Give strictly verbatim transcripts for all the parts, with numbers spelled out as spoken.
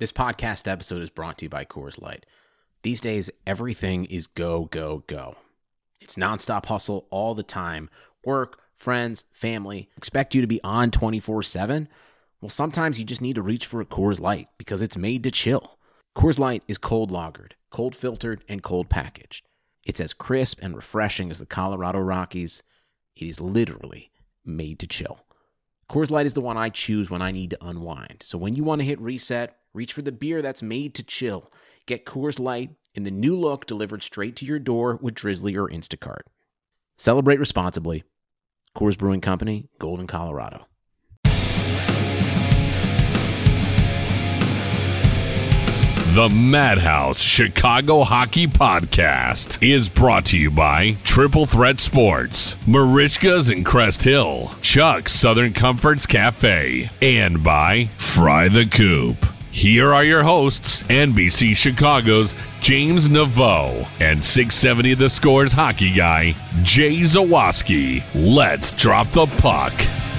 This podcast episode is brought to you by Coors Light. These days, everything is go, go, go. It's nonstop hustle all the time. Work, friends, family, expect you to be on twenty-four seven. Well, sometimes you just need to reach for a Coors Light because it's made to chill. Coors Light is cold lagered, cold filtered, and cold packaged. It's as crisp and refreshing as the Colorado Rockies. It is literally made to chill. Coors Light is the one I choose when I need to unwind. So when you want to hit reset, reach for the beer that's made to chill. Get Coors Light in the new look delivered straight to your door with Drizzly or Instacart. Celebrate responsibly. Coors Brewing Company, Golden, Colorado. The Madhouse Chicago Hockey Podcast is brought to you by Triple Threat Sports, Marichka's in Crest Hill, Chuck's Southern Comforts Cafe, and by Fry the Coop. Here are your hosts, N B C Chicago's James Naveau and six seventy The Score's hockey guy, Jay Zawaski. Let's drop the puck.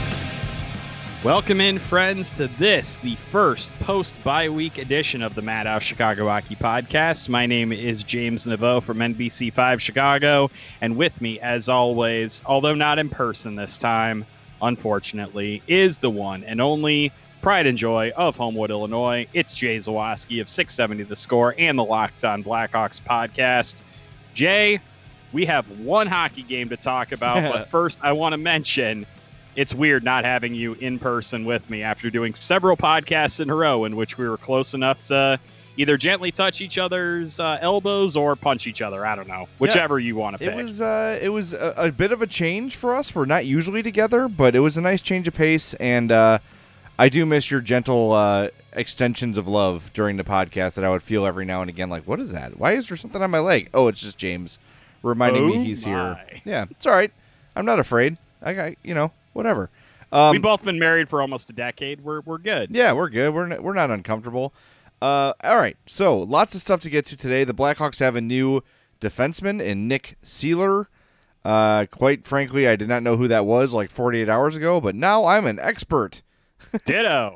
Welcome in, friends, to this, the first post-bye week edition of the Madhouse Chicago Hockey Podcast. My name is James Naveau from N B C five Chicago, and with me, as always, although not in person this time, unfortunately, is the one and only pride and joy of Homewood, Illinois. It's Jay Zawaski of six seventy The Score and the Locked On Blackhawks podcast. Jay, we have one hockey game to talk about, but first I want to mention it's weird not having you in person with me after doing several podcasts in a row in which we were close enough to either gently touch each other's uh, elbows or punch each other. I don't know, whichever yeah, you want to pick. It was uh, it was a, a bit of a change for us. We're not usually together, but it was a nice change of pace, and uh, I do miss your gentle uh, extensions of love during the podcast that I would feel every now and again. Like, what is that? Why is there something on my leg? Oh, it's just James reminding oh me he's my. here. Yeah, it's all right. I'm not afraid. I got, you know, whatever. Um, We've both been married for almost a decade. We're we're good. Yeah, we're good. We're n- we're not uncomfortable. Uh, all right. So lots of stuff to get to today. The Blackhawks have a new defenseman in Nick Seeler. Uh, quite frankly, I did not know who that was like forty-eight hours ago, but now I'm an expert. Ditto.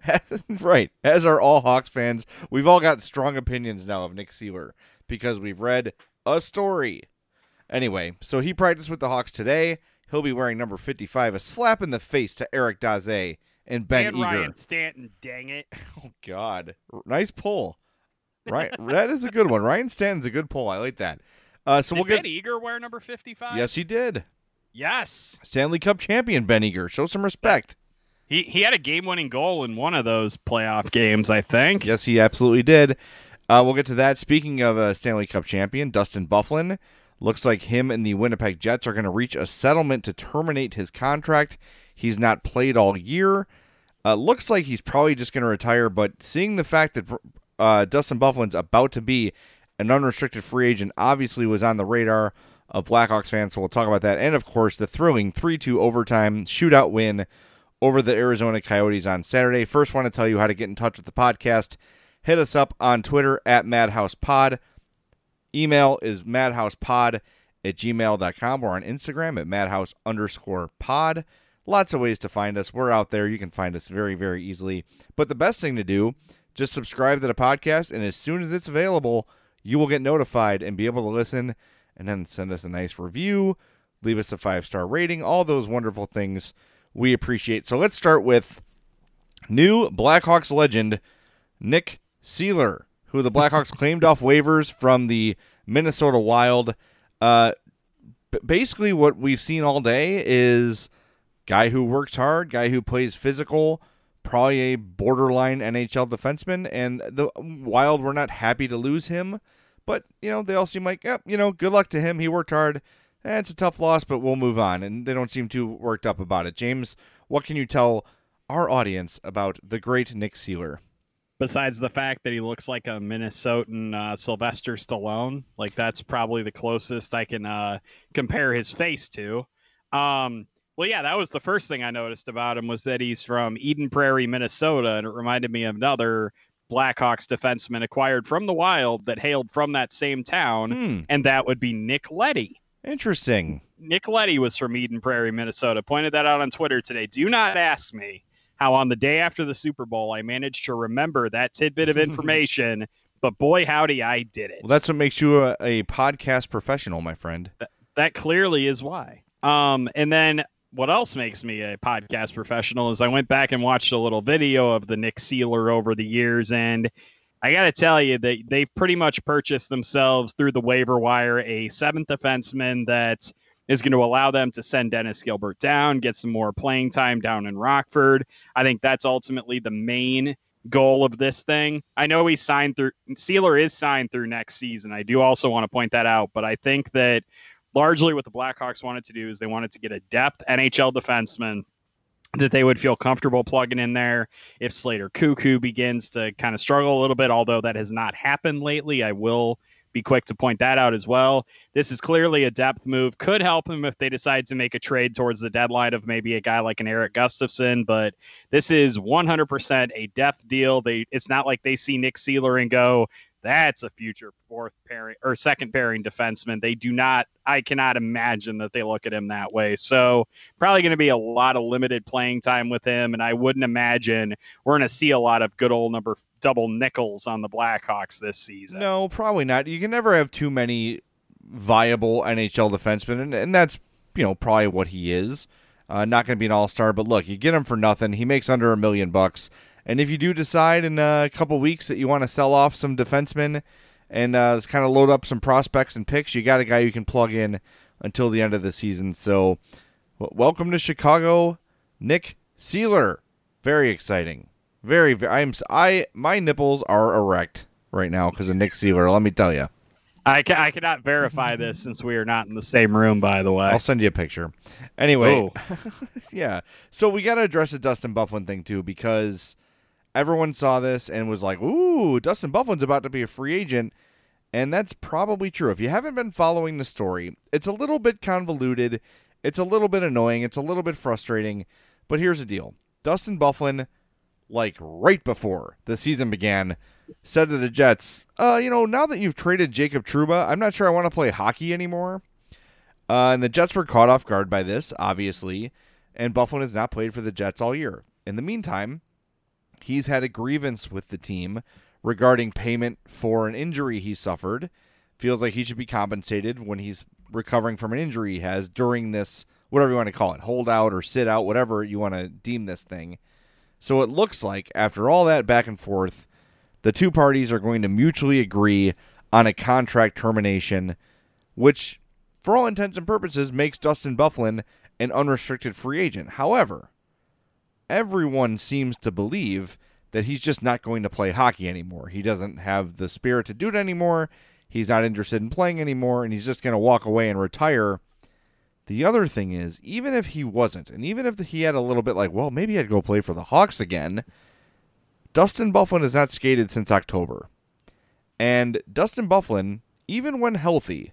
Right. As are all Hawks fans. We've all got strong opinions now of Nick Seeler because we've read a story. Anyway, so he practiced with the Hawks today. He'll be wearing number fifty-five, a slap in the face to Eric Daze and Ben and Eager. Ryan Stanton, dang it. Oh, God. Nice pull. Right, that is a good one. Ryan Stanton's a good pull. I like that. Uh, so Did we'll Ben get... Eager wear number fifty-five? Yes, he did. Yes. Stanley Cup champion Ben Eager. Show some respect. He he had a game-winning goal in one of those playoff games, I think. Yes, he absolutely did. Uh, we'll get to that. Speaking of a Stanley Cup champion, Dustin Byfuglien. Looks like him and the Winnipeg Jets are going to reach a settlement to terminate his contract. He's not played all year. Uh, looks like he's probably just going to retire, but seeing the fact that uh, Dustin Byfuglien's about to be an unrestricted free agent obviously was on the radar of Blackhawks fans, so we'll talk about that. And, of course, the thrilling three two overtime shootout win over the Arizona Coyotes on Saturday. First, want to tell you how to get in touch with the podcast. Hit us up on Twitter at MadhousePod. Email is madhousepod at gmail dot com. We're on Instagram at madhouse underscore pod. Lots of ways to find us. We're out there. You can find us very, very easily. But the best thing to do, just subscribe to the podcast, and as soon as it's available, you will get notified and be able to listen, and then send us a nice review, leave us a five-star rating, all those wonderful things we appreciate. So let's start with new Blackhawks legend, Nick Seeler, who the Blackhawks claimed off waivers from the Minnesota Wild. Uh, b- basically, what we've seen all day is guy who works hard, guy who plays physical, probably a borderline N H L defenseman, and the Wild were not happy to lose him. But, you know, they all seem like, yep, you know, good luck to him. He worked hard. Eh, it's a tough loss, but we'll move on. And they don't seem too worked up about it. James, what can you tell our audience about the great Nick Seeler? Besides the fact that he looks like a Minnesotan uh, Sylvester Stallone, like that's probably the closest I can uh, compare his face to. Um, well, yeah, that was the first thing I noticed about him was that he's from Eden Prairie, Minnesota, and it reminded me of another Blackhawks defenseman acquired from the Wild that hailed from that same town, Hmm. and that would be Nick Leddy. Interesting. Nick Leddy was from Eden Prairie, Minnesota. Pointed that out on Twitter today. Do not ask me how on the day after the Super Bowl, I managed to remember that tidbit of information, but boy, howdy, I did it. Well, that's what makes you a, a podcast professional, my friend. That, that clearly is why. Um, and then what else makes me a podcast professional is I went back and watched a little video of the Nick Seeler over the years, and I got to tell you that they've pretty much purchased themselves through the waiver wire a seventh defenseman that is going to allow them to send Dennis Gilbert down, get some more playing time down in Rockford. I think that's ultimately the main goal of this thing. I know he's signed through, Seeler is signed through next season. I do also want to point that out, but I think that largely what the Blackhawks wanted to do is they wanted to get a depth N H L defenseman that they would feel comfortable plugging in there if Slater Cuckoo begins to kind of struggle a little bit, although that has not happened lately. I will be quick to point that out as well. This is clearly a depth move. Could help him if they decide to make a trade towards the deadline of maybe a guy like an Eric Gustafson, but this is one hundred percent a depth deal. They It's not like they see Nick Seeler and go, that's a future fourth pairing or second pairing defenseman. They do not, I cannot imagine that they look at him that way. So probably going to be a lot of limited playing time with him. And I wouldn't imagine we're going to see a lot of good old number double nickels on the Blackhawks this season. No, probably not. You can never have too many viable N H L defensemen. And, and that's, you know, probably what he is. Uh, not going to be an all-star, but look, you get him for nothing. He makes under a million bucks. And if you do decide in a couple weeks that you want to sell off some defensemen and uh, kind of load up some prospects and picks, you got a guy you can plug in until the end of the season. So w- welcome to Chicago, Nick Seeler. Very exciting. Very, very I'm I my nipples are erect right now because of Nick Seeler, let me tell you. I, ca- I cannot verify this since we are not in the same room, by the way. I'll send you a picture. Anyway, yeah. So we got to address the Dustin Byfuglien thing too, because everyone saw this and was like, ooh, Dustin Byfuglien's about to be a free agent. And that's probably true. If you haven't been following the story, it's a little bit convoluted. It's a little bit annoying. It's a little bit frustrating. But here's the deal. Dustin Byfuglien, like right before the season began, said to the Jets, uh, you know, now that you've traded Jacob Trouba, I'm not sure I want to play hockey anymore. Uh, and the Jets were caught off guard by this, obviously. And Byfuglien has not played for the Jets all year. In the meantime, he's had a grievance with the team regarding payment for an injury he suffered. Feels like he should be compensated when he's recovering from an injury he has during this, whatever you want to call it, hold out or sit out, whatever you want to deem this thing. So it looks like after all that back and forth, the two parties are going to mutually agree on a contract termination, which, for all intents and purposes, makes Dustin Byfuglien an unrestricted free agent. However, everyone seems to believe that he's just not going to play hockey anymore. He doesn't have the spirit to do it anymore. He's not interested in playing anymore, and he's just going to walk away and retire. The other thing is, even if he wasn't, and even if he had a little bit like, well, maybe I'd go play for the Hawks again, Dustin Byfuglien has not skated since October. And Dustin Byfuglien, even when healthy,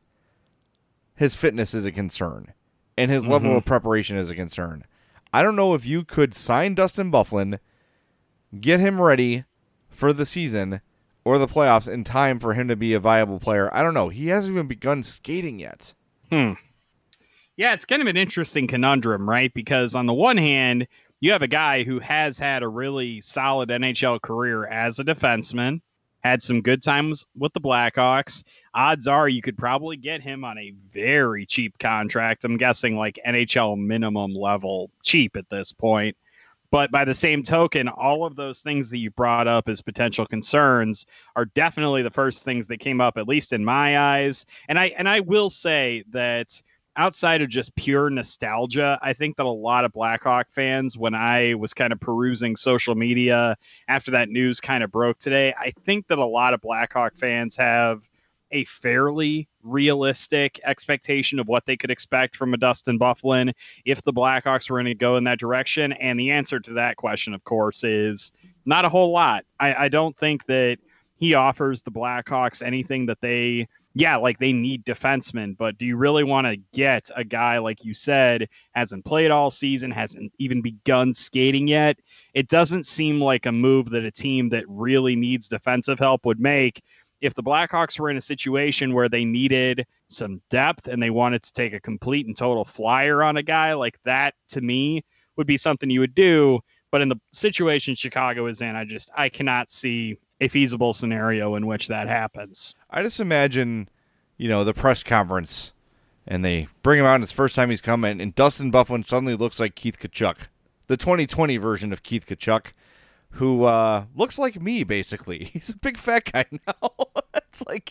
his fitness is a concern, and his mm-hmm. level of preparation is a concern. I don't know if you could sign Dustin Byfuglien, get him ready for the season or the playoffs in time for him to be a viable player. I don't know. He hasn't even begun skating yet. Hmm. Yeah, it's kind of an interesting conundrum, right? Because on the one hand, you have a guy who has had a really solid N H L career as a defenseman, had some good times with the Blackhawks. Odds are you could probably get him on a very cheap contract. I'm guessing like N H L minimum level cheap at this point. But by the same token, all of those things that you brought up as potential concerns are definitely the first things that came up, at least in my eyes. And I and I will say that outside of just pure nostalgia, I think that a lot of Blackhawk fans, when I was kind of perusing social media after that news kind of broke today, I think that a lot of Blackhawk fans have a fairly realistic expectation of what they could expect from a Dustin Byfuglien if the Blackhawks were going to go in that direction. And the answer to that question, of course, is not a whole lot. I, I don't think that he offers the Blackhawks anything that they... Yeah, like they need defensemen, but do you really want to get a guy, like you said, hasn't played all season, hasn't even begun skating yet? It doesn't seem like a move that a team that really needs defensive help would make. If the Blackhawks were in a situation where they needed some depth and they wanted to take a complete and total flyer on a guy like that, to me, would be something you would do. But in the situation Chicago is in, I just I cannot see a feasible scenario in which that happens. I just imagine, you know, the press conference, and they bring him out, and it's the first time he's coming, and Dustin Byfuglien suddenly looks like Keith Tkachuk, the twenty twenty version of Keith Tkachuk, who uh, looks like me, basically. He's a big fat guy now. It's like,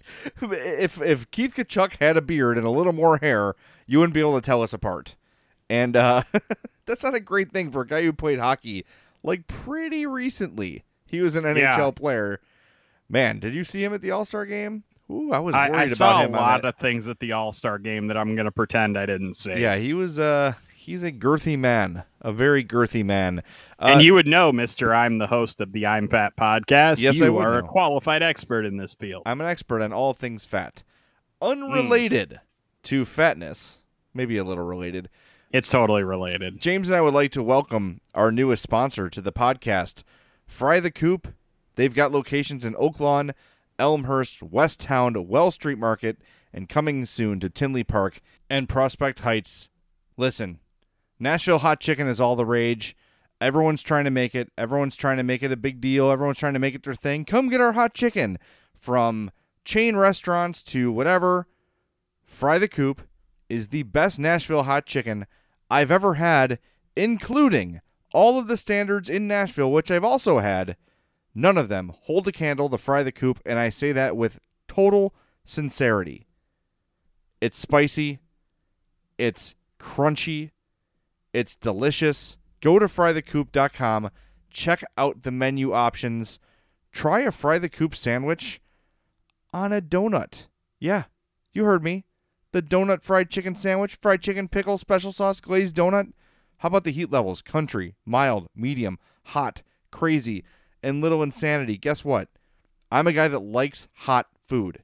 if if Keith Tkachuk had a beard and a little more hair, you wouldn't be able to tell us apart. And uh, that's not a great thing for a guy who played hockey, like, pretty recently. He was an N H L yeah. player. Man, did you see him at the All-Star game? Ooh, I was I, worried I about saw him. a lot of things at the All-Star game that I'm going to pretend I didn't see. Yeah, he was. Uh, he's a girthy man, a very girthy man. Uh, And you would know, Mister I'm the host of the I'm Fat podcast. Yes, you I would are know. a qualified expert in this field. I'm an expert on all things fat, unrelated mm. to fatness, maybe a little related. It's totally related. James and I would like to welcome our newest sponsor to the podcast, Fry the Coop. They've got locations in Oak Lawn, Elmhurst, West Town, Wells Street Market, and coming soon to Tinley Park and Prospect Heights. Listen, Nashville hot chicken is all the rage. Everyone's trying to make it. Everyone's trying to make it a big deal. Everyone's trying to make it their thing. Come get our hot chicken. From chain restaurants to whatever, Fry the Coop is the best Nashville hot chicken I've ever had, including all of the standards in Nashville, which I've also had. None of them hold a candle to Fry the Coop, and I say that with total sincerity. It's spicy. It's crunchy. It's delicious. Go to fry the coop dot com. Check out the menu options. Try a Fry the Coop sandwich on a donut. Yeah, you heard me. The donut fried chicken sandwich, fried chicken, pickle, special sauce, glazed donut. How about the heat levels? Country, mild, medium, hot, crazy, and little insanity. Guess what? I'm a guy that likes hot food.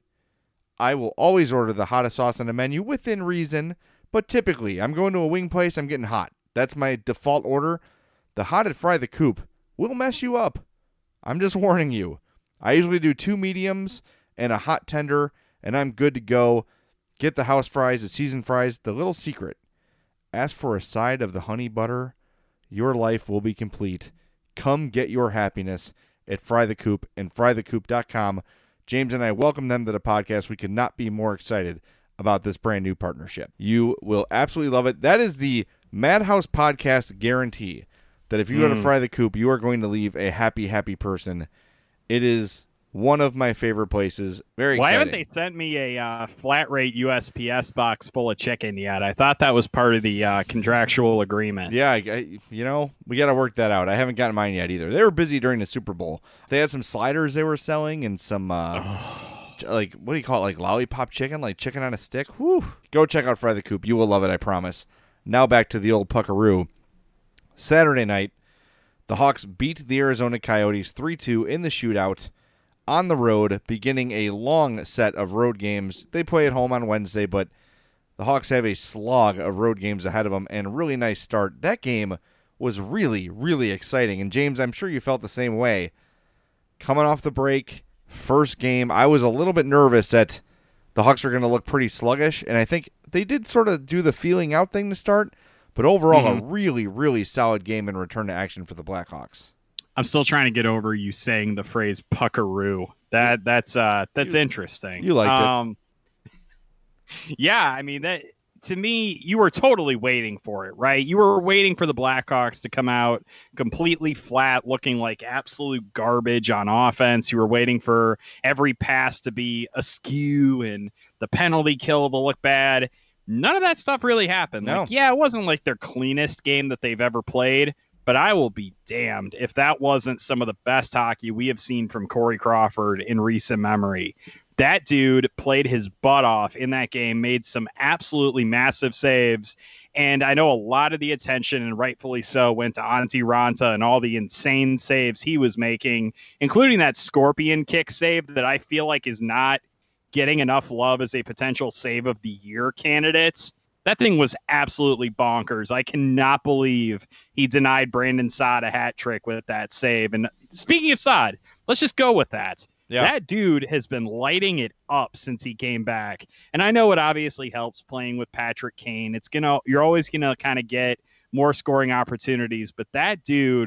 I will always order the hottest sauce on the menu within reason, but typically I'm going to a wing place, I'm getting hot. That's my default order. The hot at Fry the Coop will mess you up. I'm just warning you. I usually do two mediums and a hot tender, and I'm good to go. Get the house fries, the seasoned fries. The little secret: ask for a side of the honey butter. Your life will be complete. Come get your happiness at Fry the Coop and fry the coop dot com. James and I welcome them to the podcast. We could not be more excited about this brand new partnership. You will absolutely love it. That is the Madhouse Podcast guarantee, that if you go to Mm. Fry the Coop, you are going to leave a happy, happy person. It is one of my favorite places. Very Why exciting. haven't they sent me a uh, flat rate U S P S box full of chicken yet? I thought that was part of the uh, contractual agreement. Yeah, I, I, you know, we got to work that out. I haven't gotten mine yet either. They were busy during the Super Bowl. They had some sliders they were selling and some, uh, like, what do you call it, like lollipop chicken, like chicken on a stick. Whew. Go check out Fry the Coop. You will love it, I promise. Now back to the old Puckaroo. Saturday night, the Hawks beat the Arizona Coyotes three two in the shootout on the road, beginning a long set of road games. They play at home on Wednesday, but the Hawks have a slog of road games ahead of them, and a really nice start. That game was really, really exciting. And James, I'm sure you felt the same way. Coming off the break, first game, I was a little bit nervous that the Hawks were going to look pretty sluggish, and I think they did sort of do the feeling out thing to start, but overall Mm-hmm. a really, really solid game in return to action for the Blackhawks. I'm still trying to get over you saying the phrase puckaroo. That that's uh that's You- interesting. you liked it. um, it. Yeah, I mean that to me, you were totally waiting for it, right? You were waiting for the Blackhawks to come out completely flat, looking like absolute garbage on offense. You were waiting for every pass to be askew and the penalty kill to look bad. None of that stuff really happened. No. Like, yeah, it wasn't like their cleanest game that they've ever played, but I will be damned if that wasn't some of the best hockey we have seen from Corey Crawford in recent memory. That dude played his butt off in that game, made some absolutely massive saves. And I know a lot of the attention, and rightfully so, went to Antti Ranta and all the insane saves he was making, including that scorpion kick save that I feel like is not getting enough love as a potential save of the year candidate. That thing was absolutely bonkers. I cannot believe he denied Brandon Saad a hat trick with that save. And speaking of Saad, let's just go with that. Yeah. That dude has been lighting it up since he came back. And I know it obviously helps playing with Patrick Kane. It's gonna you're always gonna kind of get more scoring opportunities, but that dude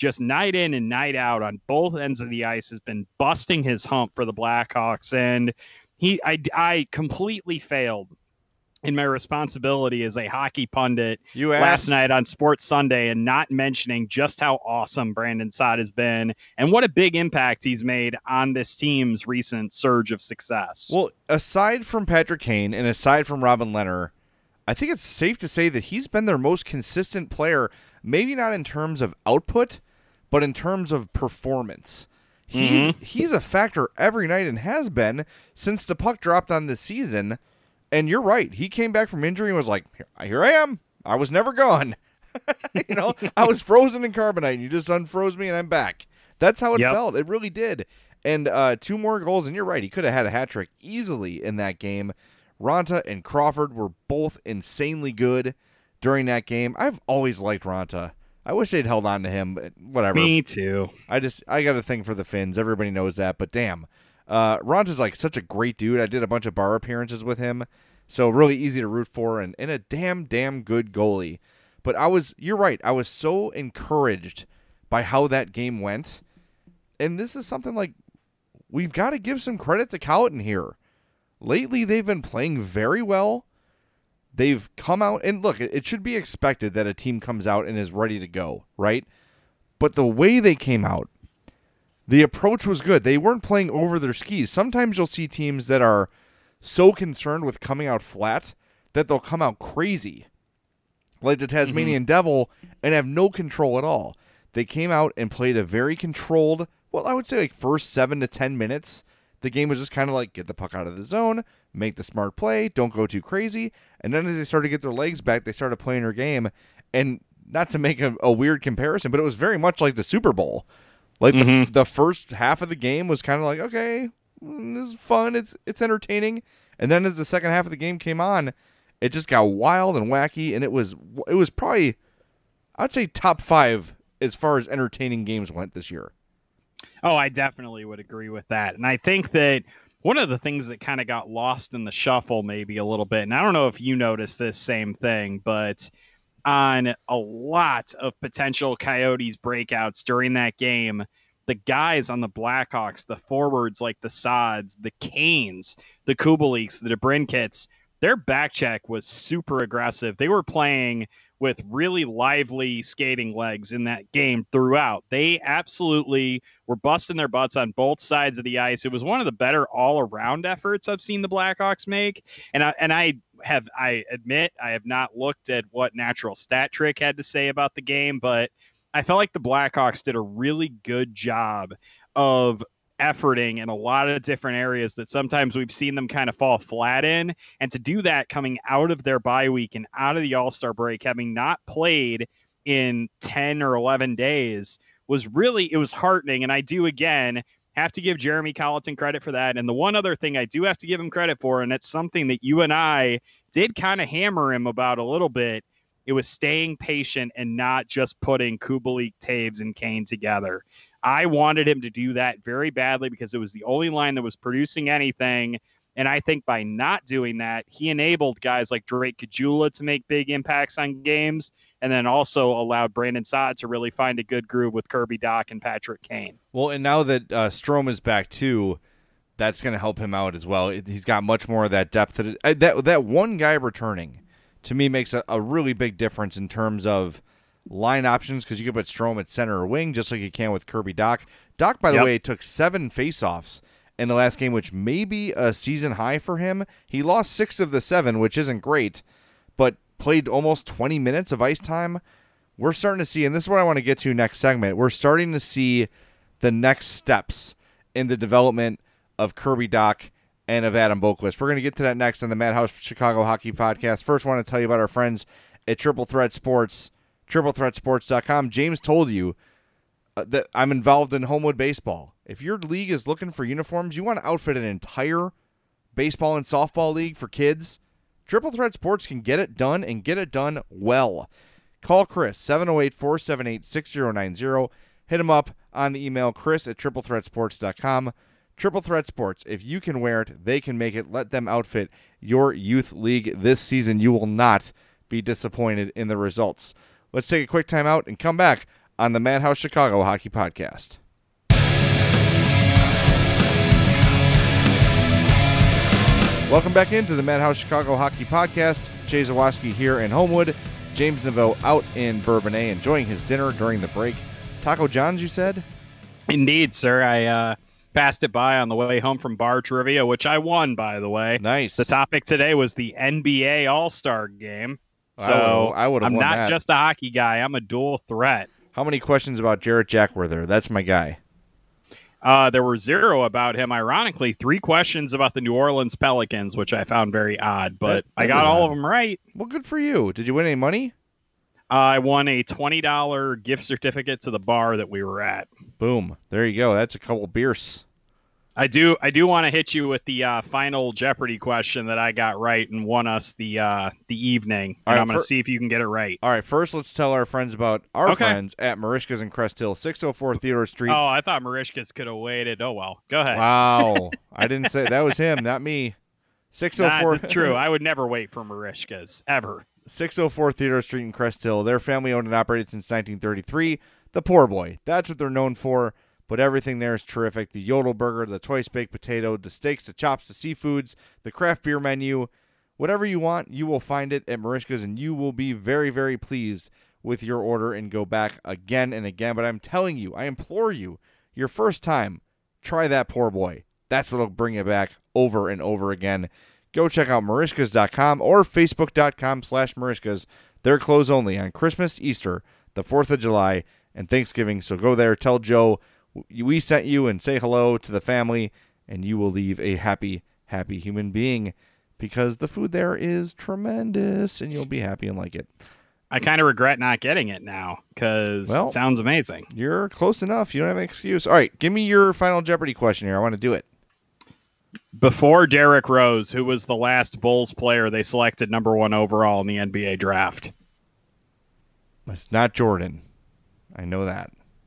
just night in and night out on both ends of the ice, has been busting his hump for the Blackhawks. And he, I, I completely failed in my responsibility as a hockey pundit You last asked- night on Sports Sunday and not mentioning just how awesome Brandon Saad has been and what a big impact he's made on this team's recent surge of success. Well, aside from Patrick Kane and aside from Robin Lehner, I think it's safe to say that he's been their most consistent player, maybe not in terms of output, but in terms of performance. He's, Mm-hmm. he's a factor every night and has been since the puck dropped on this season. And you're right. He came back from injury and was like, here, here I am. I was never gone. you know, I was frozen in carbonite, and you just unfroze me, and I'm back. That's how it Yep. felt. It really did. And uh, two more goals, and you're right. He could have had a hat trick easily in that game. Ronta and Crawford were both insanely good during that game. I've always liked Ronta. I wish they'd held on to him, but whatever. Me too. I just I got a thing for the Finns. Everybody knows that, but damn. Uh, Ronta's like such a great dude. I did a bunch of bar appearances with him, so really easy to root for, and, and a damn, damn good goalie. But I was, you're right, I was so encouraged by how that game went, and this is something like, we've got to give some credit to Colliton here. Lately, they've been playing very well. They've come out, and look, it should be expected that a team comes out and is ready to go, right? But the way they came out, the approach was good. They weren't playing over their skis. Sometimes you'll see teams that are so concerned with coming out flat that they'll come out crazy, like the Tasmanian Devil, and have no control at all. They came out and played a very controlled, well, I would say like first seven to ten minutes. The game was just kind of like, get the puck out of the zone, make the smart play, don't go too crazy. And then as they started to get their legs back, they started playing their game. And not to make a, a weird comparison, but it was very much like the Super Bowl. Like Mm-hmm. the, the first half of the game was kind of like, okay, mm, this is fun, it's it's entertaining. And then as the second half of the game came on, it just got wild and wacky, and it was it was probably, I'd say, top five as far as entertaining games went this year. Oh, I definitely would agree with that. And I think that one of the things that kind of got lost in the shuffle maybe a little bit, and I don't know if you noticed this same thing, but on a lot of potential Coyotes breakouts during that game, the guys on the Blackhawks, the forwards like the Sods, the Canes, the Kubaliks, the DeBrincats, their back check was super aggressive. They were playing with really lively skating legs in that game throughout. They absolutely were busting their butts on both sides of the ice. It was one of the better all-around efforts I've seen the Blackhawks make. And I, and I have, I admit, I have not looked at what Natural Stat Trick had to say about the game, but I felt like the Blackhawks did a really good job of efforting in a lot of different areas that sometimes we've seen them kind of fall flat in. And to do that coming out of their bye week and out of the All-Star break, having not played in ten or eleven days, was really, it was heartening. And I do, again, have to give Jeremy Colliton credit for that. And the one other thing I do have to give him credit for, and it's something that you and I did kind of hammer him about a little bit, it was staying patient and not just putting Kubalik, Taves, and Kane together. I wanted him to do that very badly because it was the only line that was producing anything. And I think by not doing that, he enabled guys like Drake Caggiula to make big impacts on games, and then also allowed Brandon Saad to really find a good groove with Kirby Dach and Patrick Kane. Well, and now that uh, Strome is back too, that's going to help him out as well. He's got much more of that depth. That it, that that one guy returning, to me, makes a, a really big difference in terms of line options, because you can put Strome at center or wing just like you can with Kirby Dach. Dach, by the Yep. way, took seven faceoffs in the last game, which may be a season high for him. He lost six of the seven, which isn't great, but played almost twenty minutes of ice time. We're starting to see, and this is what I want to get to next segment, we're starting to see the next steps in the development of Kirby Dach and of Adam Boqvist. We're going to get to that next on the Madhouse Chicago Hockey Podcast. First, I want to tell you about our friends at Triple Threat Sports, triple threat sports dot com. James told you uh, that I'm involved in Homewood Baseball. If your league is looking for uniforms, you want to outfit an entire baseball and softball league for kids, Triple Threat Sports can get it done and get it done well. Call Chris, seven oh eight, four seven eight, six oh nine oh. Hit him up on the email, chris at triple threat sports dot com. Triple Threat Sports, if you can wear it, they can make it. Let them outfit your youth league this season. You will not be disappointed in the results. Let's take a quick time out and come back on the Madhouse Chicago Hockey Podcast. Welcome back into the Madhouse Chicago Hockey Podcast. Jay Zawaski here in Homewood. James Naveau out in Bourbonnais enjoying his dinner during the break. Taco John's, you said? Indeed, sir. I uh, passed it by on the way home from bar trivia, which I won, by the way. Nice. The topic today was the N B A All-Star Game. So I would have I'm won not that. just a hockey guy. I'm a dual threat. How many questions about Jarrett Jack were there? That's my guy. Uh, there were zero about him. Ironically, three questions about the New Orleans Pelicans, which I found very odd, but That- that I got is all odd. of them right. Well, good for you. Did you win any money? Uh, I won a twenty dollars gift certificate to the bar that we were at. Boom. There you go. That's a couple beers. I do I do want to hit you with the uh, final Jeopardy question that I got right and won us the uh, the evening. All And right, I'm going to fir- see if you can get it right. All right, first let's tell our friends about our Okay. friends at Marishka's in Crest Hill, six oh four Theodore Street. Oh, I thought Marishkas could have waited. Oh, well. Go ahead. Wow. I didn't say that was him, not me. six oh four Nah, that's true. I would never wait for Marishkas, ever. six oh four Theodore Street in Crest Hill. They're family owned and operated since nineteen thirty-three. The Poor Boy. That's what they're known for, but everything there is terrific. The Yodel Burger, the twice baked potato, the steaks, the chops, the seafoods, the craft beer menu. Whatever you want, you will find it at Marishka's, and you will be very, very pleased with your order and go back again and again. But I'm telling you, I implore you, your first time, try that Poor Boy. That's what will bring you back over and over again. Go check out Marishkas dot com or Facebook dot com slash Marishkas. They're closed only on Christmas, Easter, the fourth of July, and Thanksgiving. So go there, tell Joe we sent you, and say hello to the family, and you will leave a happy, happy human being, because the food there is tremendous, and you'll be happy and like it. I kind of regret not getting it now because Well- it sounds amazing. You're close enough. You don't have an excuse. All right, give me your final Jeopardy question here. I want to do it. Before Derrick Rose, who was the last Bulls player they selected number one overall in the N B A draft? It's not Jordan. I know that.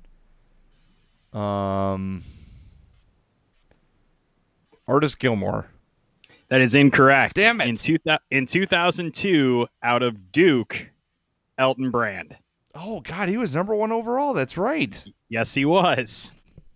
Um, Artis Gilmore. That is incorrect. Damn it. In, two, in two thousand two, out of Duke, Elton Brand. Oh, God, he was number one overall. That's right. Yes, he was.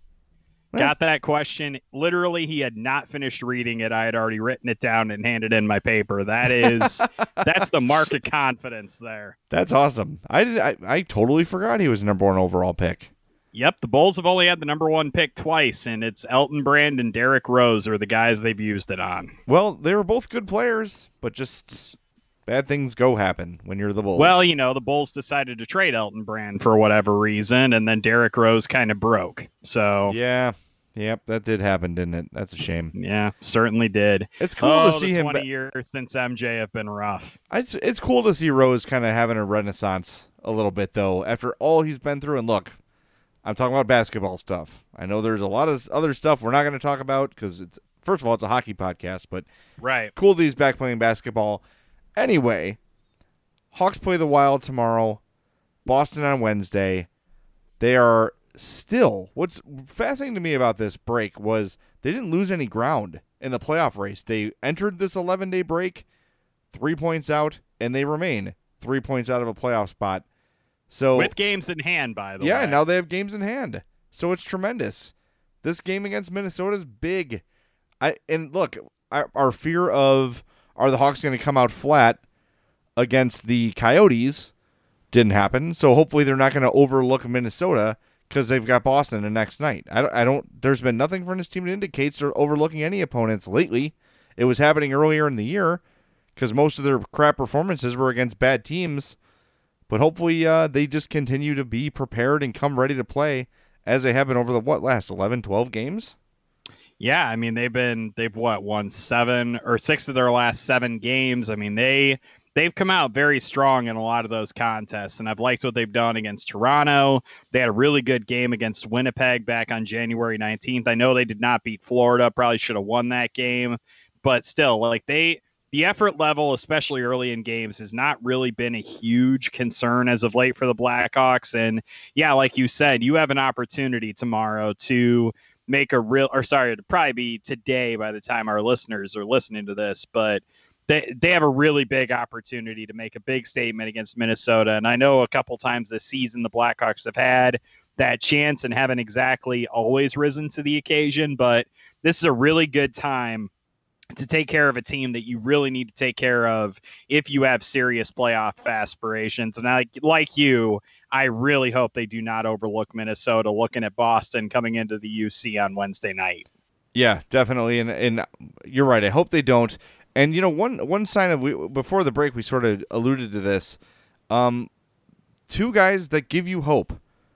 Well- Got that question. Literally, he had not finished reading it. I had already written it down and handed in my paper. That is, that's the mark of confidence there. That's awesome. I did. I, I totally forgot he was the number one overall pick. Yep, the Bulls have only had the number one pick twice, and it's Elton Brand and Derrick Rose are the guys they've used it on. Well, they were both good players, but just bad things go happen when you're the Bulls. Well, you know, the Bulls decided to trade Elton Brand for whatever reason, and then Derrick Rose kind of broke. So, yeah. Yep, that did happen, didn't it? That's a shame. yeah, certainly did. It's cool oh, to see the him. twenty ba- years since M J have been rough. It's it's cool to see Rose kind of having a renaissance a little bit, though, after all he's been through. And look, I'm talking about basketball stuff. I know there's a lot of other stuff we're not going to talk about because it's first of all it's a hockey podcast, but Right. cool that he's back playing basketball. Anyway, Hawks play the Wild tomorrow. Boston on Wednesday. They are still, what's fascinating to me about this break was they didn't lose any ground in the playoff race. They entered this eleven-day break three points out, and they remain three points out of a playoff spot. So With games in hand, by the yeah, way. now they have games in hand. So it's tremendous. This game against Minnesota is big. I and look, our, our fear of are the Hawks going to come out flat against the Coyotes didn't happen. So hopefully they're not going to overlook Minnesota because they've got Boston the next night. I don't, I don't. There's been nothing from this team that indicates they're overlooking any opponents lately. It was happening earlier in the year because most of their crap performances were against bad teams. But hopefully uh, they just continue to be prepared and come ready to play as they have been over the, what, last eleven, twelve games? Yeah, I mean they've been they've what won seven or six of their last seven games. I mean they they've come out very strong in a lot of those contests, and I've liked what they've done against Toronto. They had a really good game against Winnipeg back on January nineteenth. I know they did not beat Florida, probably should have won that game, but still, like they the effort level, especially early in games, has not really been a huge concern as of late for the Blackhawks. And yeah, like you said, you have an opportunity tomorrow to make a real, or sorry, it'd probably be today by the time our listeners are listening to this, but they they have a really big opportunity to make a big statement against Minnesota. And I know a couple times this season the Blackhawks have had that chance and haven't exactly always risen to the occasion, but this is a really good time to take care of a team that you really need to take care of if you have serious playoff aspirations. And I, like you, I really hope they do not overlook Minnesota looking at Boston coming into the U C on Wednesday night. Yeah, definitely. And and you're right. I hope they don't. And, you know, one one sign of, we, before the break, we sort of alluded to this. Um, two guys that give you hope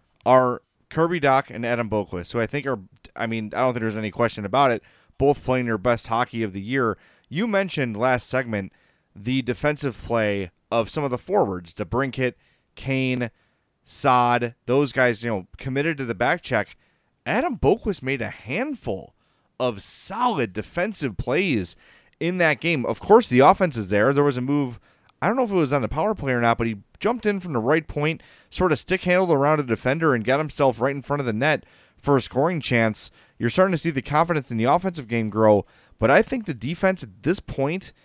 are Kirby Dach and Adam Boqvist, who I think are, I mean, I don't think there's any question about it, both playing their best hockey of the year. You mentioned last segment the defensive play of some of the forwards, DeBrincat, Kane, Saad, those guys, you know, committed to the back check. Adam Boqvist made a handful of solid defensive plays in that game. Of course, the offense is there. There was a move, I don't know if it was on the power play or not, but he jumped in from the right point, sort of stick-handled around a defender and got himself right in front of the net for a scoring chance. You're starting to see the confidence in the offensive game grow, but I think the defense at this point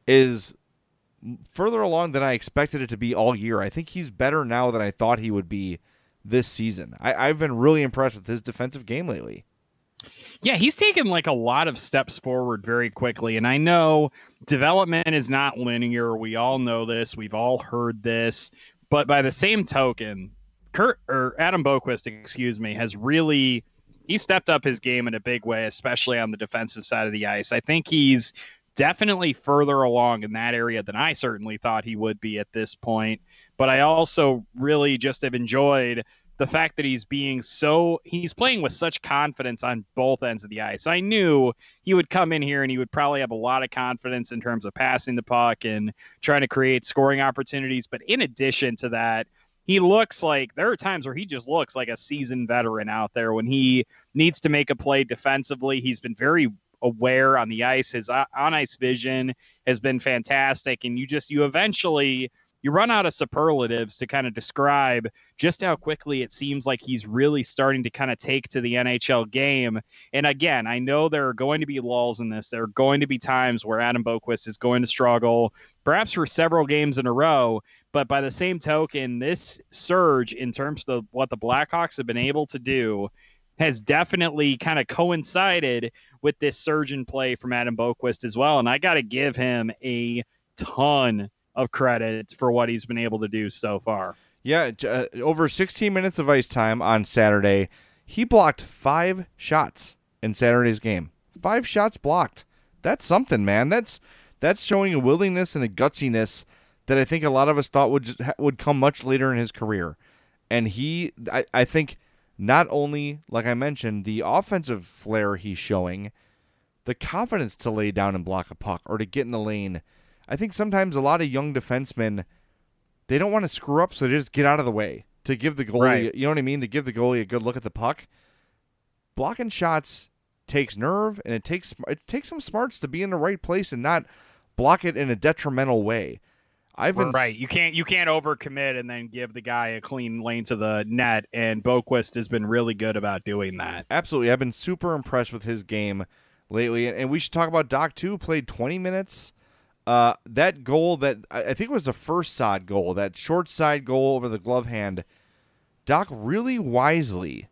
is further along than I expected it to be all year. I think he's better now than I thought he would be this season. I, I've been really impressed with his defensive game lately. Yeah, he's taken like a lot of steps forward very quickly. And I know development is not linear. We all know this. We've all heard this. But by the same token, Kurt or Adam Boqvist, excuse me, has really he stepped up his game in a big way, especially on the defensive side of the ice. I think he's definitely further along in that area than I certainly thought he would be at this point. But I also really just have enjoyed the fact that he's being so he's playing with such confidence on both ends of the ice. I knew he would come in here and he would probably have a lot of confidence in terms of passing the puck and trying to create scoring opportunities. But in addition to that, he looks like there are times where he just looks like a seasoned veteran out there when he needs to make a play defensively. He's been very aware on the ice. His on ice vision has been fantastic. And you just, you eventually, you run out of superlatives to kind of describe just how quickly it seems like he's really starting to kind of take to the N H L game. And again, I know there are going to be lulls in this. There are going to be times where Adam Boqvist is going to struggle, perhaps for several games in a row. But by the same token, this surge in terms of what the Blackhawks have been able to do has definitely kind of coincided with this surge in play from Adam Boqvist as well. And I got to give him a ton of credit for what he's been able to do so far. Yeah, uh, over sixteen minutes of ice time on Saturday. He blocked five shots in Saturday's game. Five shots blocked. That's something, man. That's that's showing a willingness and a gutsiness that I think a lot of us thought would just, would come much later in his career. And he, I, I think, not only, like I mentioned, the offensive flair he's showing, the confidence to lay down and block a puck or to get in the lane. I think sometimes a lot of young defensemen, they don't want to screw up, so they just get out of the way to give the goalie, right. you know what I mean, to give the goalie a good look at the puck. Blocking shots takes nerve, and it takes it takes some smarts to be in the right place and not block it in a detrimental way. I've been right. You can't you can't overcommit and then give the guy a clean lane to the net, and Boqvist has been really good about doing that. Absolutely. I've been super impressed with his game lately, and we should talk about Dach too. Played twenty minutes. Uh, that goal that I think was the first Saad goal, that short side goal over the glove hand, Dach really wisely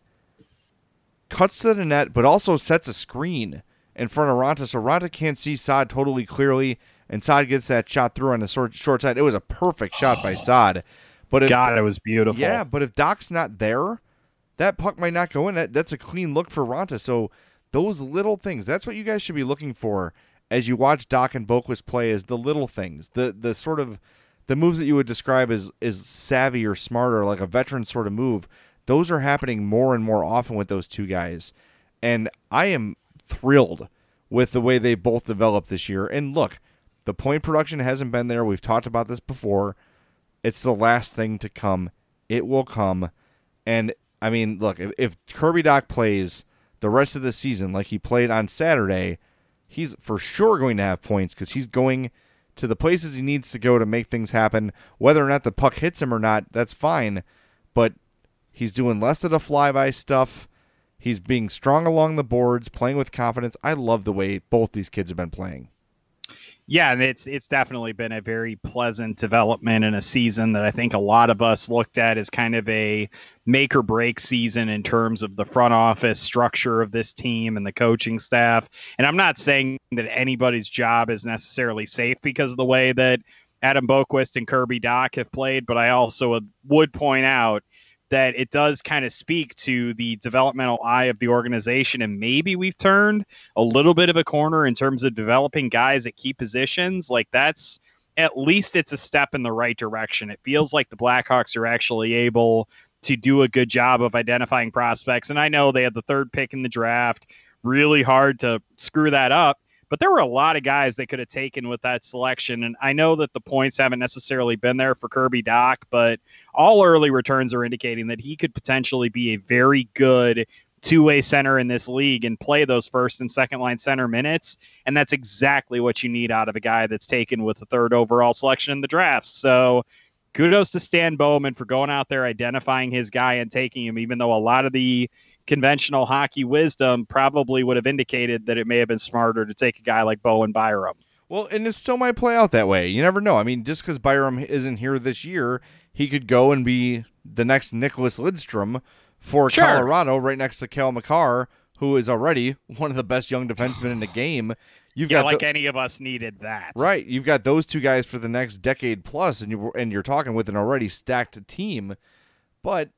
cuts to the net, but also sets a screen in front of Raanta, so Raanta can't see Saad totally clearly, and Saad gets that shot through on the short, short side. It was a perfect shot by Saad. But if, God, it was beautiful. Yeah, but if Dach's not there, that puck might not go in. That, that's a clean look for Raanta. So those little things, that's what you guys should be looking for as you watch Dach and Boqvist play, is the little things, the the sort of the moves that you would describe as, as savvy or smarter, like a veteran sort of move. Those are happening more and more often with those two guys. And I am thrilled with the way they both developed this year. And look, the point production hasn't been there. We've talked about this before. It's the last thing to come. It will come. And, I mean, look, if, if Kirby Dach plays the rest of the season like he played on Saturday, he's for sure going to have points because he's going to the places he needs to go to make things happen. Whether or not the puck hits him or not, that's fine. But he's doing less of the flyby stuff. He's being strong along the boards, playing with confidence. I love the way both these kids have been playing. Yeah, and it's it's definitely been a very pleasant development in a season that I think a lot of us looked at as kind of a make or break season in terms of the front office structure of this team and the coaching staff. And I'm not saying that anybody's job is necessarily safe because of the way that Adam Boqvist and Kirby Dach have played, but I also would point out that it does kind of speak to the developmental eye of the organization. And maybe we've turned a little bit of a corner in terms of developing guys at key positions. Like that's, at least it's a step in the right direction. It feels like the Blackhawks are actually able to do a good job of identifying prospects. And I know they had the third pick in the draft, really hard to screw that up. But there were a lot of guys they could have taken with that selection. And I know that the points haven't necessarily been there for Kirby Dach, but all early returns are indicating that he could potentially be a very good two-way center in this league and play those first and second line center minutes. And that's exactly what you need out of a guy that's taken with the third overall selection in the draft. So kudos to Stan Bowman for going out there, identifying his guy and taking him, even though a lot of the conventional hockey wisdom probably would have indicated that it may have been smarter to take a guy like Bowen Byram. Well, and it still might play out that way. You never know. I mean, just because Byram isn't here this year, he could go and be the next Nicholas Lidstrom for Sure. Colorado, right next to Cale Makar, who is already one of the best young defensemen in the game. You've Yeah, got like the, any of us needed that. right. You've got those two guys for the next decade plus, and you and you're talking with an already stacked team. But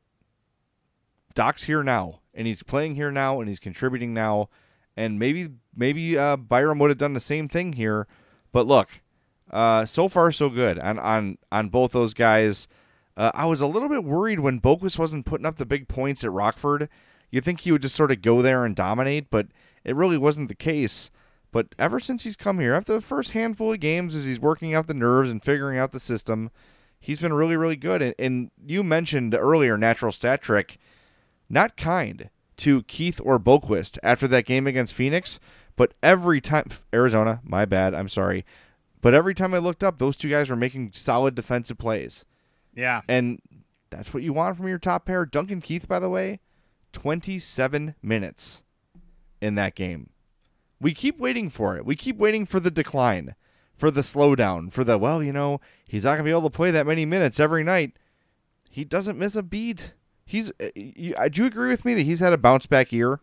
Doc's here now, and he's playing here now, and he's contributing now, and maybe maybe uh, Byram would have done the same thing here. But look, uh, so far so good on on on both those guys. Uh, I was a little bit worried when Boqvist wasn't putting up the big points at Rockford. You'd think he would just sort of go there and dominate, but it really wasn't the case. But ever since he's come here, after the first handful of games, as he's working out the nerves and figuring out the system, he's been really, really good. And, and you mentioned earlier Natural Stat Trick, not kind to Keith or Boqvist after that game against Phoenix, but every time, Arizona, my bad, I'm sorry, but every time I looked up, those two guys were making solid defensive plays. Yeah. And that's what you want from your top pair. Duncan Keith, by the way, twenty-seven minutes in that game. We keep waiting for it. We keep waiting for the decline, for the slowdown, for the, well, you know, he's not going to be able to play that many minutes every night. He doesn't miss a beat. He's. You, do you agree with me that he's had a bounce back year?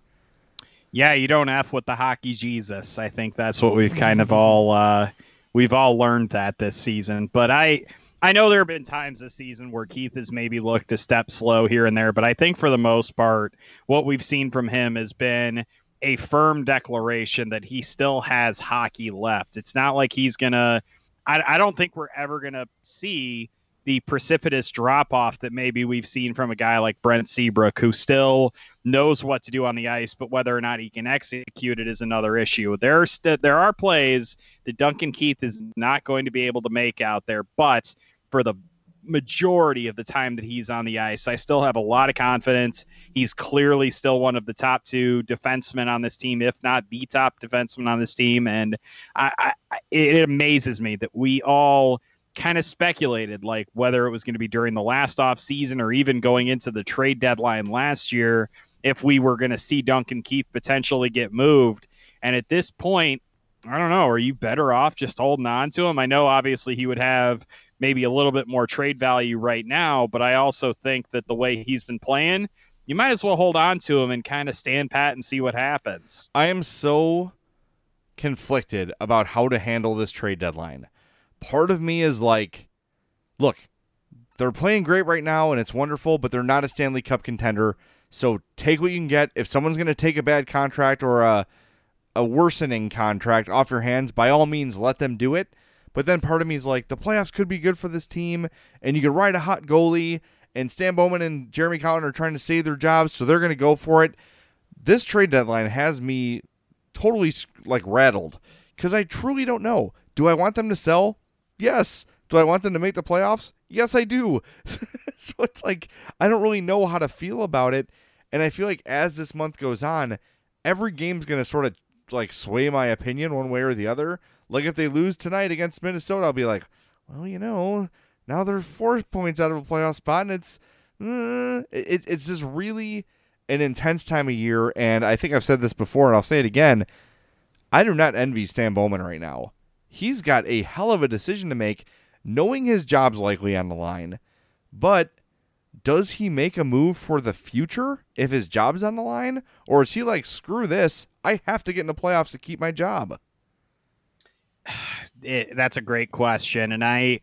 Yeah, you don't F with the hockey Jesus. I think that's what we've kind of all uh, we've all learned that this season. But I I know there have been times this season where Keith has maybe looked a step slow here and there, but I think for the most part, what we've seen from him has been a firm declaration that he still has hockey left. It's not like he's gonna. I, I don't think we're ever gonna see the precipitous drop-off that maybe we've seen from a guy like Brent Seabrook, who still knows what to do on the ice, but whether or not he can execute it is another issue. There are, st- there are plays that Duncan Keith is not going to be able to make out there, but for the majority of the time that he's on the ice, I still have a lot of confidence. He's clearly still one of the top two defensemen on this team, if not the top defenseman on this team, and I, I, it amazes me that we all kind of speculated like whether it was going to be during the last off season or even going into the trade deadline last year if we were going to see Duncan Keith potentially get moved. And at this point, I don't know, are you better off just holding on to him? I know obviously he would have maybe a little bit more trade value right now, but I also think that the way he's been playing, you might as well hold on to him and kind of stand pat and see what happens. I am so conflicted about how to handle this trade deadline. Part of me is like, look, they're playing great right now and it's wonderful, but they're not a Stanley Cup contender. So take what you can get. If someone's going to take a bad contract or a, a worsening contract off your hands, by all means, let them do it. But then part of me is like, the playoffs could be good for this team and you could ride a hot goalie, and Stan Bowman and Jeremy Colliton are trying to save their jobs, so they're going to go for it. This trade deadline has me totally like rattled because I truly don't know. Do I want them to sell? Yes. Do I want them to make the playoffs? Yes, I do. So it's like, I don't really know how to feel about it. And I feel like as this month goes on, every game's going to sort of like sway my opinion one way or the other. Like if they lose tonight against Minnesota, I'll be like, well, you know, now they're four points out of a playoff spot. And it's, uh, it, it's just really an intense time of year. And I think I've said this before and I'll say it again. I do not envy Stan Bowman right now. he's got a hell of a decision to make, knowing his job's likely on the line. But does he make a move for the future if his job's on the line? Or is he like, screw this, I have to get in the playoffs to keep my job? It, that's a great question. And I,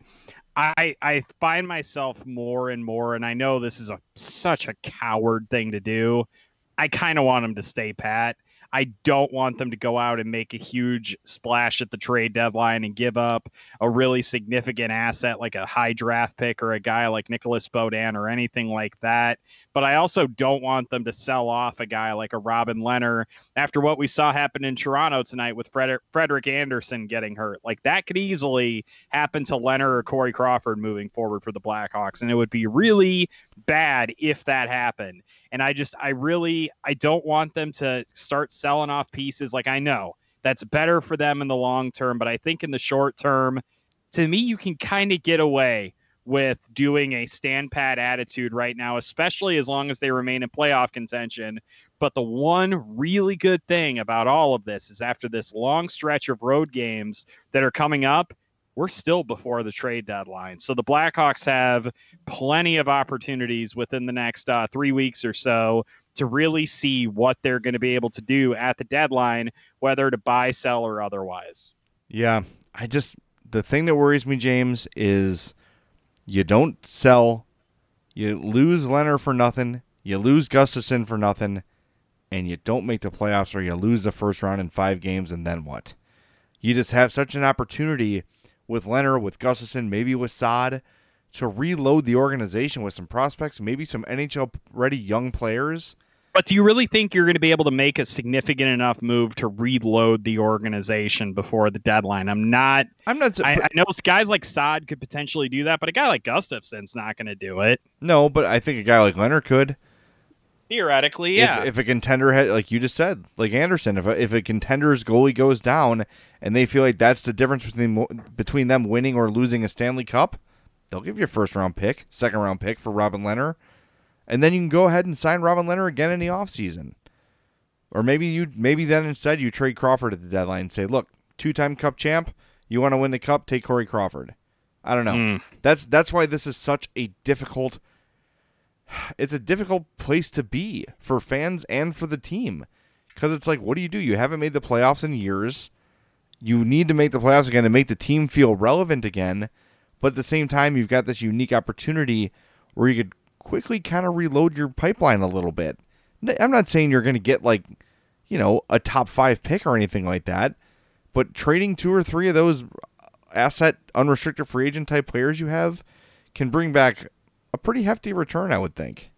I, I find myself more and more, and I know this is a such a coward thing to do. I kind of want him to stay pat. I don't want them to go out and make a huge splash at the trade deadline and give up a really significant asset like a high draft pick or a guy like Nicholas Beaudin or anything like that. But I also don't want them to sell off a guy like a Robin Lehner after what we saw happen in Toronto tonight with Frederick, Frederick Anderson getting hurt. Like that could easily happen to Lehner or Corey Crawford moving forward for the Blackhawks. And it would be really bad if that happened. And I just, I really, I don't want them to start selling off pieces. Like, I know that's better for them in the long term, but I think in the short term, to me, you can kind of get away with doing a stand pat attitude right now, especially as long as they remain in playoff contention. But the one really good thing about all of this is after this long stretch of road games that are coming up, we're still before the trade deadline. So the Blackhawks have plenty of opportunities within the next uh, three weeks or so to really see what they're going to be able to do at the deadline, whether to buy, sell, or otherwise. Yeah, I just, the thing that worries me, James, is you don't sell, you lose Lehner for nothing, you lose Gustafsson for nothing, and you don't make the playoffs, or you lose the first round in five games, and then what? You just have such an opportunity with Lehner, with Gustafsson, maybe with Saad, to reload the organization with some prospects, maybe some N H L-ready young players. But do you really think you're going to be able to make a significant enough move to reload the organization before the deadline? I'm not. I'm not. I, I know guys like Saad could potentially do that, but a guy like Gustafsson's not going to do it. No, but I think a guy like Lehner could. Theoretically, yeah. If, if a contender, had, like you just said, like Anderson, if a, if a contender's goalie goes down and they feel like that's the difference between between them winning or losing a Stanley Cup, they'll give you a first round pick, second round pick for Robin Lehner, and then you can go ahead and sign Robin Lehner again in the offseason. Or maybe you maybe then instead you trade Crawford at the deadline and say, look, two-time Cup champ, you want to win the Cup, take Corey Crawford. I don't know. Mm. That's that's why this is such a difficult. It's a difficult place to be for fans and for the team, because it's like, what do you do? You haven't made the playoffs in years. You need to make the playoffs again to make the team feel relevant again. But at the same time, you've got this unique opportunity where you could quickly kind of reload your pipeline a little bit. I'm not saying you're going to get like, you know, a top five pick or anything like that, but trading two or three of those asset unrestricted free agent type players you have can bring back a pretty hefty return, I would think.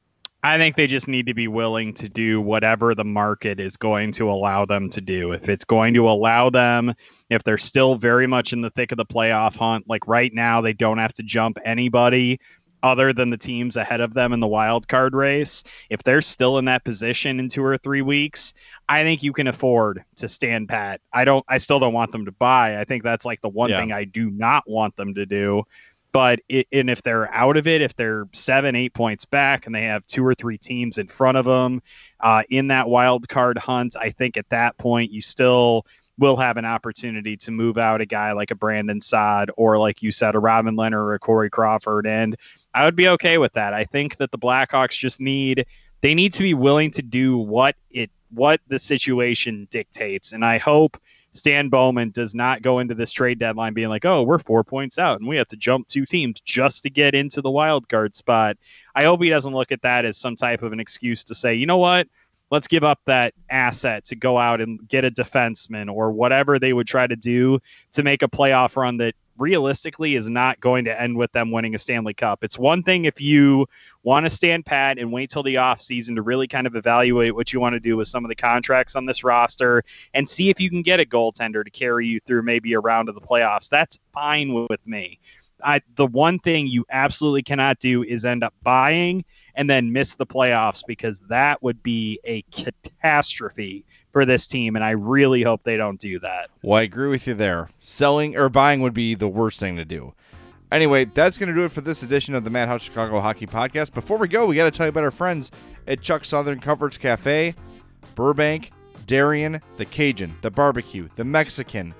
I think they just need to be willing to do whatever the market is going to allow them to do. If it's going to allow them, if they're still very much in the thick of the playoff hunt, like right now, they don't have to jump anybody other than the teams ahead of them in the wild card race. If they're still in that position in two or three weeks, I think you can afford to stand pat. I don't, I still don't want them to buy. I think that's like the one yeah. thing I do not want them to do. But it, and if they're out of it, if they're seven, eight points back and they have two or three teams in front of them uh, in that wild card hunt, I think at that point you still will have an opportunity to move out a guy like a Brandon Saad or, like you said, a Robin Lehner or a Corey Crawford. And I would be okay with that. I think that the Blackhawks just need, they need to be willing to do what it, what the situation dictates. And I hope Stan Bowman does not go into this trade deadline being like, oh, we're four points out and we have to jump two teams just to get into the wild card spot. I hope he doesn't look at that as some type of an excuse to say, you know what, let's give up that asset to go out and get a defenseman or whatever they would try to do to make a playoff run that realistically is not going to end with them winning a Stanley Cup. It's one thing if you want to stand pat and wait till the offseason to really kind of evaluate what you want to do with some of the contracts on this roster and see if you can get a goaltender to carry you through maybe a round of the playoffs. That's fine with me. I, the one thing you absolutely cannot do is end up buying and then miss the playoffs, because that would be a catastrophe for this team, and I really hope they don't do that. Well, I agree with you there. Selling or buying would be the worst thing to do. Anyway, that's going to do it for this edition of the Madhouse Chicago Hockey Podcast. Before we go, we got to tell you about our friends at Chuck's Southern Comforts Cafe, Burbank, Darien, the Cajun, the Barbecue, the Mexican,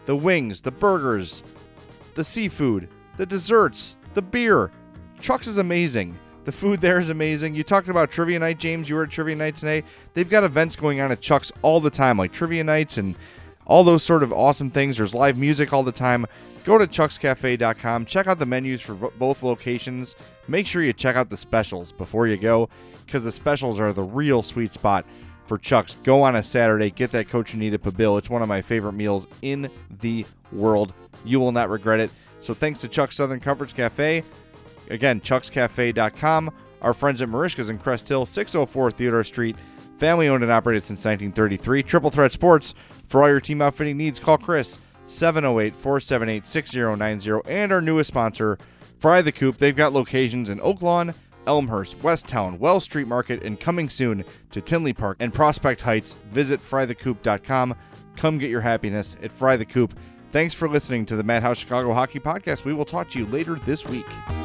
the wings, the burgers, the seafood, the desserts, the beer. Chuck's is amazing. The food there is amazing. You talked about trivia night, James. You were at trivia night today. They've got events going on at Chuck's all the time, like trivia nights and all those sort of awesome things. There's live music all the time. Go to chucks cafe dot com. Check out the menus for v- both locations. Make sure you check out the specials before you go, because the specials are the real sweet spot for Chuck's. Go on a Saturday. Get that Cochinita Pibil. It's one of my favorite meals in the world. You will not regret it. So thanks to Chuck's Southern Comforts Cafe. Again, chucks cafe dot com. Our friends at Marishka's in Crest Hill, six oh four Theodore Street. Family owned and operated since nineteen thirty-three. Triple Threat Sports. For all your team outfitting needs, call Chris, seven oh eight, four seven eight, six oh nine oh. And our newest sponsor, Fry the Coop. They've got locations in Oak Lawn, Elmhurst, Westtown, Wells Street Market, and coming soon to Tinley Park and Prospect Heights. Visit fry the coop dot com. Come get your happiness at Fry the Coop. Thanks for listening to the Madhouse Chicago Hockey Podcast. We will talk to you later this week.